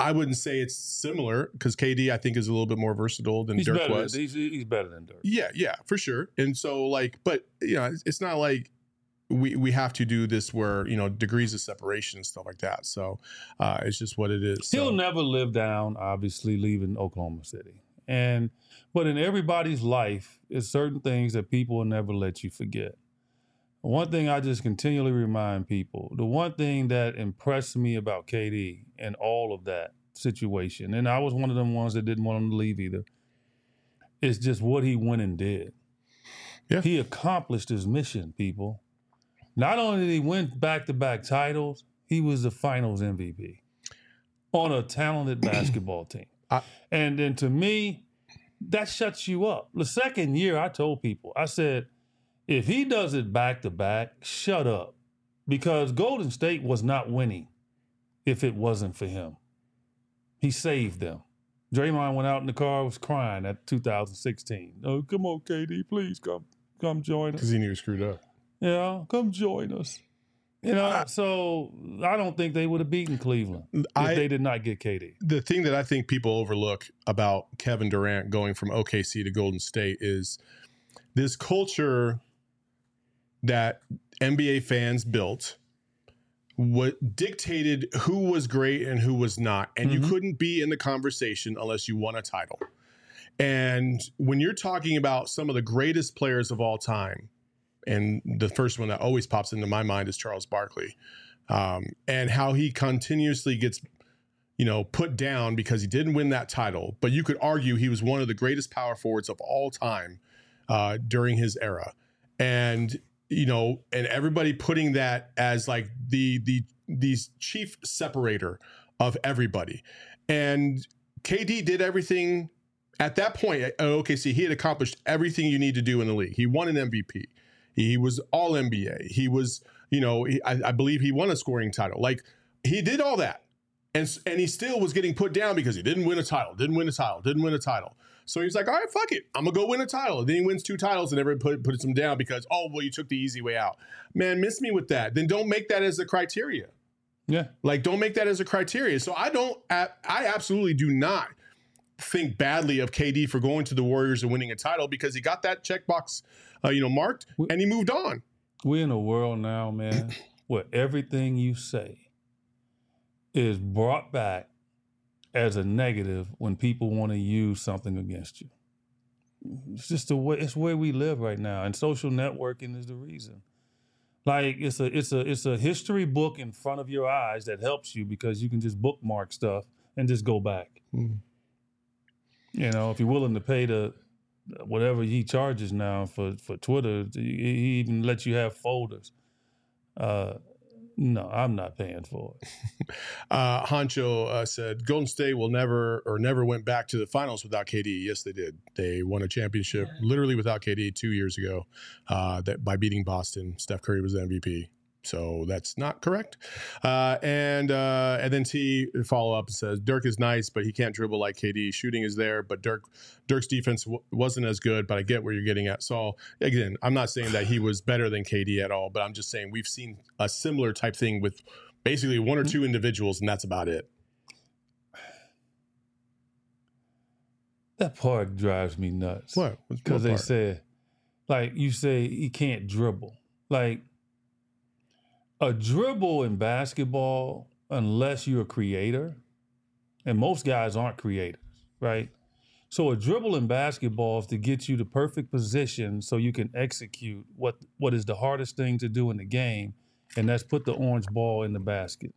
I wouldn't say it's similar because KD, I think, is a little bit more versatile than Dirk was.
He's better than Dirk.
Yeah, for sure. And so, like, but, you know, it's not like we have to do this where, you know, degrees of separation and stuff like that. So it's just what it is.
He'll
So,
never live down, obviously, leaving Oklahoma City. But in everybody's life, there's certain things that people will never let you forget. One thing I just continually remind people, the one thing that impressed me about KD and all of that situation, and I was one of them ones that didn't want him to leave either, is just what he went and did.
Yeah.
He accomplished his mission, people. Not only did he win back-to-back titles, he was the finals MVP on a talented basketball team. And then to me, that shuts you up. The second year, I told people, I said, if he does it back-to-back, shut up. Because Golden State was not winning if it wasn't for him. He saved them. Draymond went out in the car, was crying at 2016. Oh, come on, KD, please come join us.
because he knew he was screwed up.
Yeah, come join us. You know, so I don't think they would have beaten Cleveland if they did not get KD.
The thing that I think people overlook about Kevin Durant going from OKC to Golden State is this culture that NBA fans built, what dictated who was great and who was not. And you couldn't be in the conversation unless you won a title. And when you're talking about some of the greatest players of all time, and the first one that always pops into my mind is Charles Barkley, and how he continuously gets, you know, put down because he didn't win that title. But you could argue he was one of the greatest power forwards of all time during his era. And, you know, and everybody putting that as like the chief separator of everybody. And KD did everything at that point at OKC. He had accomplished everything you need to do in the league. He won an MVP. He was all NBA. He was, you know, I believe he won a scoring title. Like, he did all that. And he still was getting put down because he didn't win a title. So he was like, all right, fuck it. I'm going to go win a title. And then he wins 2 titles and everybody puts him down because, oh, well, you took the easy way out. Man, miss me with that. Then don't make that as a criteria.
Yeah.
Like, don't make that as a criteria. So I absolutely do not think badly of KD for going to the Warriors and winning a title because he got that checkbox, marked, and he moved on.
We're in a world now, man, where everything you say is brought back as a negative when people want to use something against you. It's just it's where we live right now, and social networking is the reason. Like, it's a history book in front of your eyes that helps you because you can just bookmark stuff and just go back. You know, if you're willing to pay the whatever he charges now for Twitter, he even lets you have folders. No, I'm not paying for it.
Honcho said Golden State will never went back to the finals without KD. Yes, they did. They won a championship literally without KD 2 years ago that by beating Boston. Steph Curry was the MVP. So that's not correct. And then T follow up and says Dirk is nice, but he can't dribble like KD. Shooting is there, but Dirk's defense wasn't as good. But I get where you're getting at. So again, I'm not saying that he was better than KD at all, but I'm just saying we've seen a similar type thing with basically 1 or 2 individuals, and that's about it.
That part drives me nuts.
What?
Because they said, like, you say he can't dribble. Like, a dribble in basketball, unless you're a creator, and most guys aren't creators, right? So a dribble in basketball is to get you the perfect position so you can execute what is the hardest thing to do in the game, and that's put the orange ball in the basket.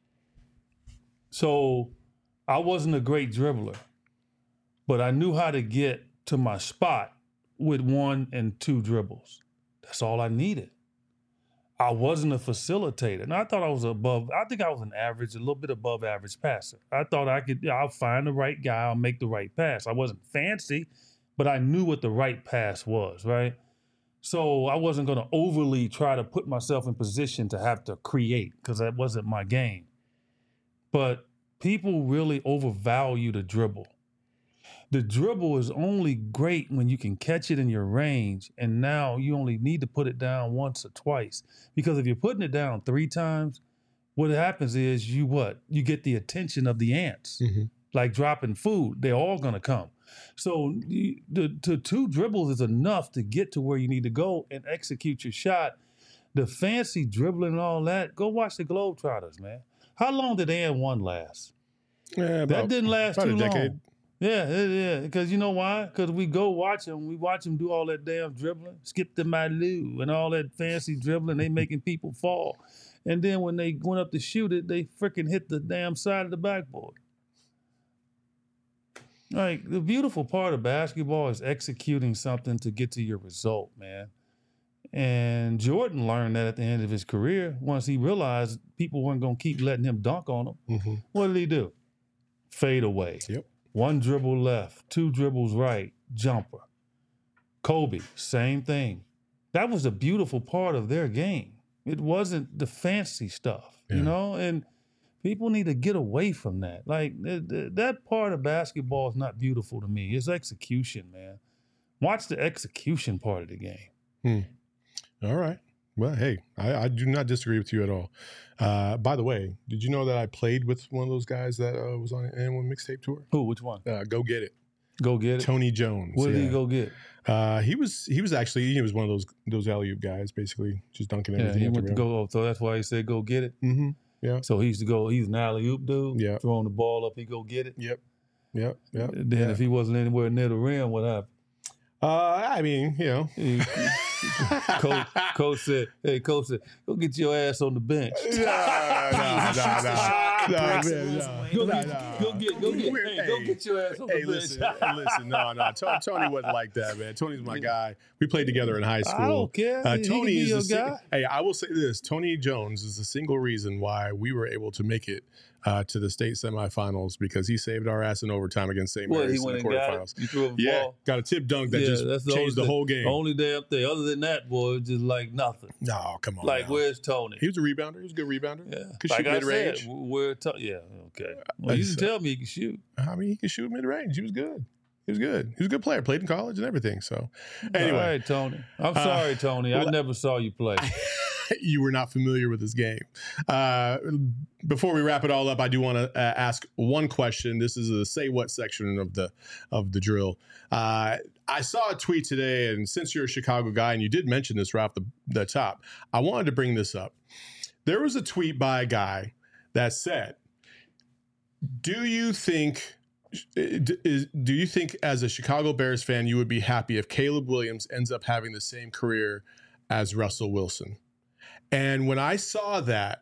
So I wasn't a great dribbler, but I knew how to get to my spot with 1 and 2 dribbles. That's all I needed. I wasn't a facilitator. And I thought I was I think I was an average, a little bit above average passer. I thought I'll find the right guy, I'll make the right pass. I wasn't fancy, but I knew what the right pass was, right? So I wasn't going to overly try to put myself in position to have to create because that wasn't my game. But people really overvalue the dribble. The dribble is only great when you can catch it in your range, and now you only need to put it down once or twice. Because if you're putting it down 3 times, what happens is you get the attention of the ants, like dropping food. They're all gonna come. So the 2 dribbles is enough to get to where you need to go and execute your shot. The fancy dribbling and all that, go watch the Globetrotters, man. How long did AN1 last?
Yeah,
That didn't last
about
too
a decade.
long. Yeah. Because you know why? Because we go watch them. We watch them do all that damn dribbling, skip the Malou and all that fancy dribbling. They making people fall. And then when they went up to shoot it, they freaking hit the damn side of the backboard. Like, the beautiful part of basketball is executing something to get to your result, man. And Jordan learned that at the end of his career. Once he realized people weren't going to keep letting him dunk on him, what did he do? Fade away.
Yep.
1 dribble left, 2 dribbles right, jumper. Kobe, same thing. That was a beautiful part of their game. It wasn't the fancy stuff, you know? And people need to get away from that. Like, that part of basketball is not beautiful to me. It's execution, man. Watch the execution part of the game.
All right. Well, hey, I do not disagree with you at all. By the way, did you know that I played with one of those guys that was on an N1 mixtape tour?
Who? Which one?
Go Get It.
Go Get It?
Tony Jones.
What did he go get?
He was actually one of those alley-oop guys, basically, just dunking everything.
Yeah, he
at the
went to
rim.
go. So that's why he said go get it.
Mm-hmm. Yeah.
So he used to go. He's an alley-oop dude.
Yeah.
Throwing the ball up, he go get it.
Yep.
Then if he wasn't anywhere near the rim, what happened?
I mean,
Coach said, go get your ass on the bench. Go get your ass on the bench.
Listen, no. Tony wasn't like that, man. Tony's my guy. We played together in high school.
I don't care.
Tony
He
is
your
the
guy.
Hey, I will say this: Tony Jones is the single reason why we were able to make it to the state semifinals, because he saved our ass in overtime against St.
What,
Mary's
he
in the
went and got
quarterfinals.
it? You threw him a
Yeah,
ball?
got a tip dunk that
That's
just
the
changed the whole game.
Only damn thing. Other than that, boy, it's just like nothing.
No, come on.
Like,
now.
where's Tony?
He was a rebounder. He was a good rebounder.
Yeah.
Could
Like
shoot
I
mid-range.
said, okay. Well, you didn't tell me he could shoot.
I mean, he can shoot mid-range. He was good. He was a good player. Played in college and everything. So, anyway.
All right, Tony. I'm sorry, Tony. I never saw you play.
You were not familiar with this game. Before we wrap it all up, I do want to ask one question. This is the say what section of the drill. I saw a tweet today, and since you're a Chicago guy and you did mention this right off the top, I wanted to bring this up. There was a tweet by a guy that said, "Do you think as a Chicago Bears fan you would be happy if Caleb Williams ends up having the same career as Russell Wilson?" And when I saw that,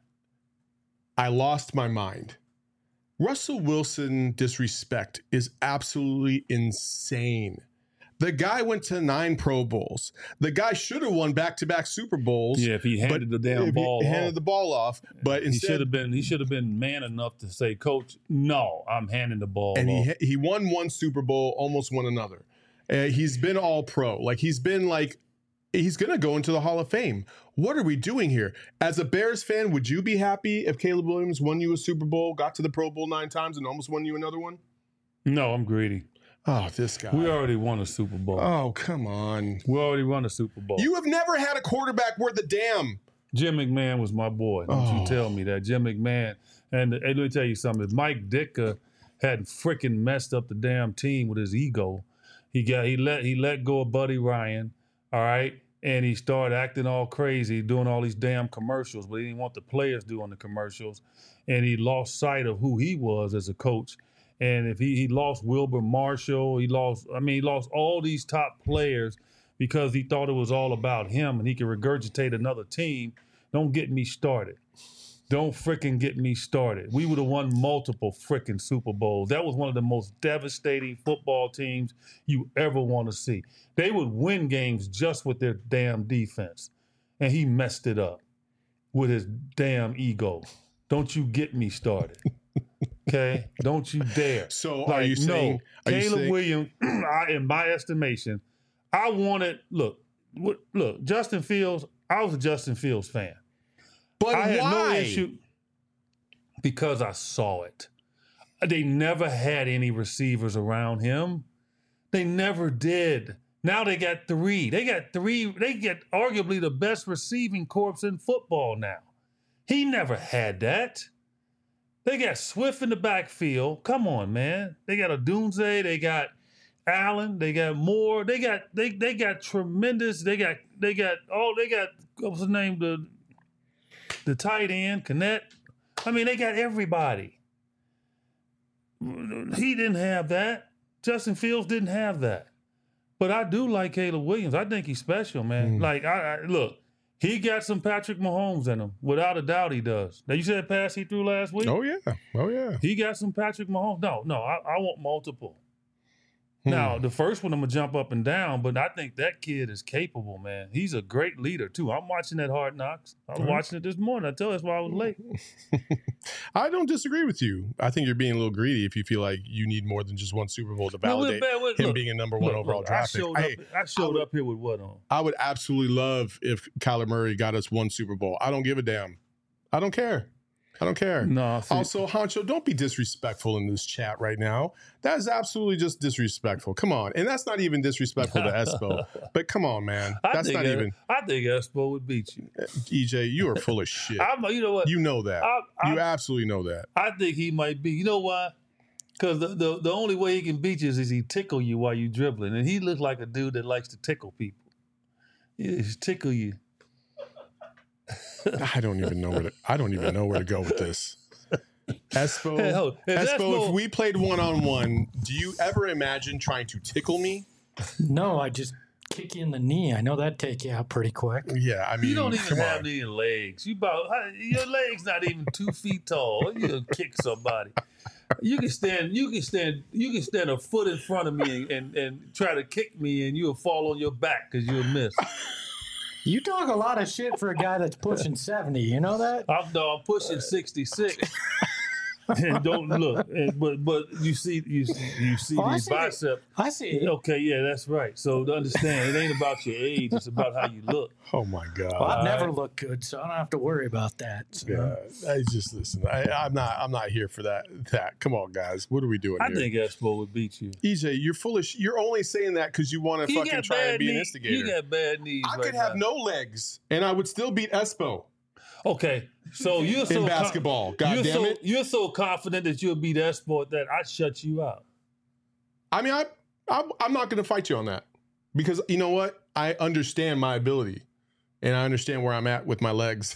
I lost my mind. Russell Wilson disrespect is absolutely insane. The guy went to 9 Pro Bowls. The guy should have won back-to-back Super Bowls.
Yeah, if he handed the damn ball off.
Handed the ball off, but instead
he should have been man enough to say, "Coach, no, I'm handing the ball
and
off."
he won 1 Super Bowl, almost won another. He's been all pro. Like, he's been like, he's going to go into the Hall of Fame. What are we doing here? As a Bears fan, would you be happy if Caleb Williams won you a Super Bowl, got to the Pro Bowl 9 times, and almost won you another one?
No, I'm greedy.
Oh, this guy.
We already won a Super Bowl.
Oh, come on.
We already won a Super Bowl.
You have never had a quarterback worth a damn.
Jim McMahon was my boy. Don't you tell me that. Jim McMahon. And let me tell you something. If Mike Ditka hadn't freaking messed up the damn team with his ego, he let go of Buddy Ryan, all right? And he started acting all crazy, doing all these damn commercials, but he didn't want the players doing the commercials. And he lost sight of who he was as a coach. And if he lost Wilbur Marshall, he lost all these top players because he thought it was all about him and he could regurgitate another team. Don't get me started. Don't freaking get me started. We would have won multiple freaking Super Bowls. That was one of the most devastating football teams you ever want to see. They would win games just with their damn defense. And he messed it up with his damn ego. Don't you get me started. Okay? Don't you dare.
So are you saying...
No, Caleb Williams, in my estimation, I wanted... Look, Justin Fields, I was a Justin Fields fan.
But
I had
why?
no issue because I saw it. They never had any receivers around him. They never did. Now they got 3. They get arguably the best receiving corps in football now. He never had that. They got Swift in the backfield. Come on, man. They got Odunze. They got Allen. They got Moore. They got tremendous. They got what's his name? The tight end, Connect. I mean, they got everybody. He didn't have that. Justin Fields didn't have that. But I do like Caleb Williams. I think he's special, man. Like, I look, he got some Patrick Mahomes in him. Without a doubt, he does. Now, you said that pass he threw last week?
Oh, yeah.
He got some Patrick Mahomes. No, I want multiple. Now, the first one, I'm going to jump up and down, but I think that kid is capable, man. He's a great leader, too. I'm watching that Hard Knocks. I was watching it this morning. I tell you, that's why I was late.
I don't disagree with you. I think you're being a little greedy if you feel like you need more than just one Super Bowl to validate him being a number one overall draft pick.
I showed up here with what on?
I would absolutely love if Kyler Murray got us one Super Bowl. I don't give a damn. I don't care.
No.
Also, Honcho, don't be disrespectful in this chat right now. That is absolutely just disrespectful. Come on. And that's not even disrespectful to Espo. But come on, man.
I think Espo would beat you.
EJ, you are full of shit.
You know what?
You know that. You absolutely know that.
I think he might be. You know why? Because the only way he can beat you is he tickle you while you dribbling. And he looks like a dude that likes to tickle people. He just tickle you.
I don't even know where to go with this. Espo, if we played one-on-one, do you ever imagine trying to tickle me?
No, I just kick you in the knee. I know that'd take you out pretty quick.
Yeah, I mean,
you don't even have any legs. Your legs not even 2 feet tall. You gonna kick somebody. You can stand a foot in front of me and try to kick me, and you'll fall on your back because you'll miss.
You talk a lot of shit for a guy that's pushing 70. You know that?
I'm pushing 66. And don't look. But you see these biceps.
I see it.
Okay, yeah, that's right. So to understand, it ain't about your age. It's about how you look.
Oh my God.
Well, I've never looked good, so I don't have to worry about that. So.
Yeah, I just listen. I'm not here for that. Come on, guys. What are we doing here?
I think Espo would beat you.
EJ, you're foolish. You're only saying that because you want to fucking try and be an instigator.
You got bad knees.
I could have no legs, and I would still beat Espo.
Okay, so you're so
in basketball. God damn it!
You're so confident that you'll beat Espo that I shut you out.
I mean, I'm not going to fight you on that because you know what? I understand my ability, and I understand where I'm at with my legs.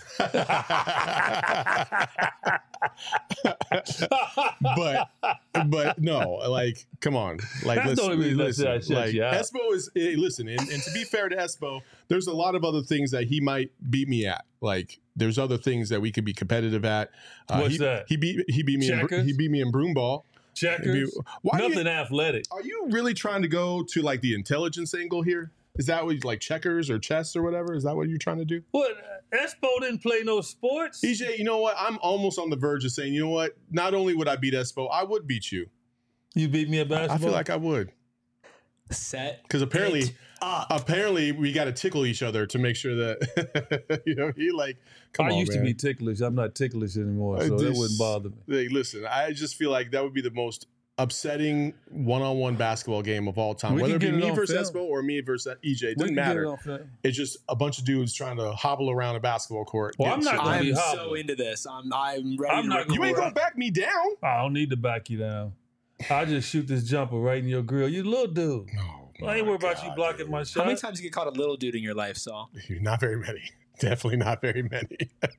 but no, like, come on, like, listen. Espo is listen, and to be fair to Espo, there's a lot of other things that he might beat me at. Like, there's other things that we could be competitive at.
What's that?
He beat me in broomball.
Checkers. Nothing athletic.
Are you really trying to go to like the intelligence angle here? Is that what you like, checkers or chess or whatever? Is that what you're trying to do?
What? Espo didn't play no sports.
EJ, you know what? I'm almost on the verge of saying, you know what? Not only would I beat Espo, I would beat you.
You beat me at basketball?
I feel like I would. Because apparently we got to tickle each other to make sure that he like. Come on,
I used to be ticklish. I'm not ticklish anymore, so that wouldn't bother me.
Hey, listen, I just feel like that would be the most upsetting one-on-one basketball game of all time. Whether it be me versus Espo or me versus EJ, it doesn't matter. It's just a bunch of dudes trying to hobble around a basketball court.
Well, I'm so into this. I'm ready to
you ain't gonna back me down.
I don't need to back you down. I'll just shoot this jumper right in your grill. You little dude. I ain't worried about you blocking my shot.
How many times you get caught a little dude in your life, Saul?
Not very many. Definitely not very many.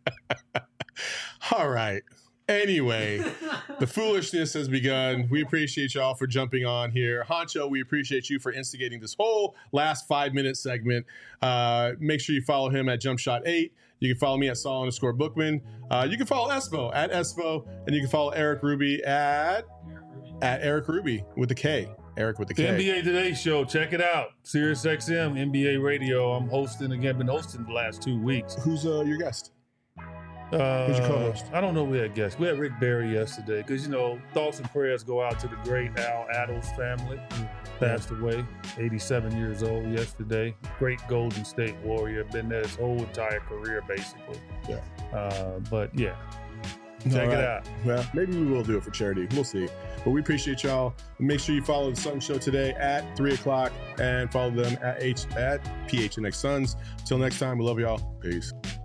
All right. Anyway, the foolishness has begun. We appreciate y'all for jumping on here. Honcho, we appreciate you for instigating this whole last 5-minute segment. Make sure you follow him at JumpShot8. You can follow me at Saul_Bookman. You can follow Espo at Espo. And you can follow Eric Ruby at Eric Ruby with a K. Eric with the K.
The NBA Today Show. Check it out. Sirius XM, NBA Radio. I'm hosting again. Been hosting the last 2 weeks.
Who's your guest? Who's your co-host?
I don't know. We had guests. We had Rick Barry yesterday because, thoughts and prayers go out to the great Al Attles family. Passed away, 87 years old yesterday. Great Golden State Warrior. Been there his whole entire career, basically.
Yeah.
But, yeah. Check it out. Well,
maybe we will do it for charity. We'll see. But we appreciate y'all. Make sure you follow the Sun Show today at 3 o'clock and follow them at PHNX Suns. Till next time, we love y'all. Peace.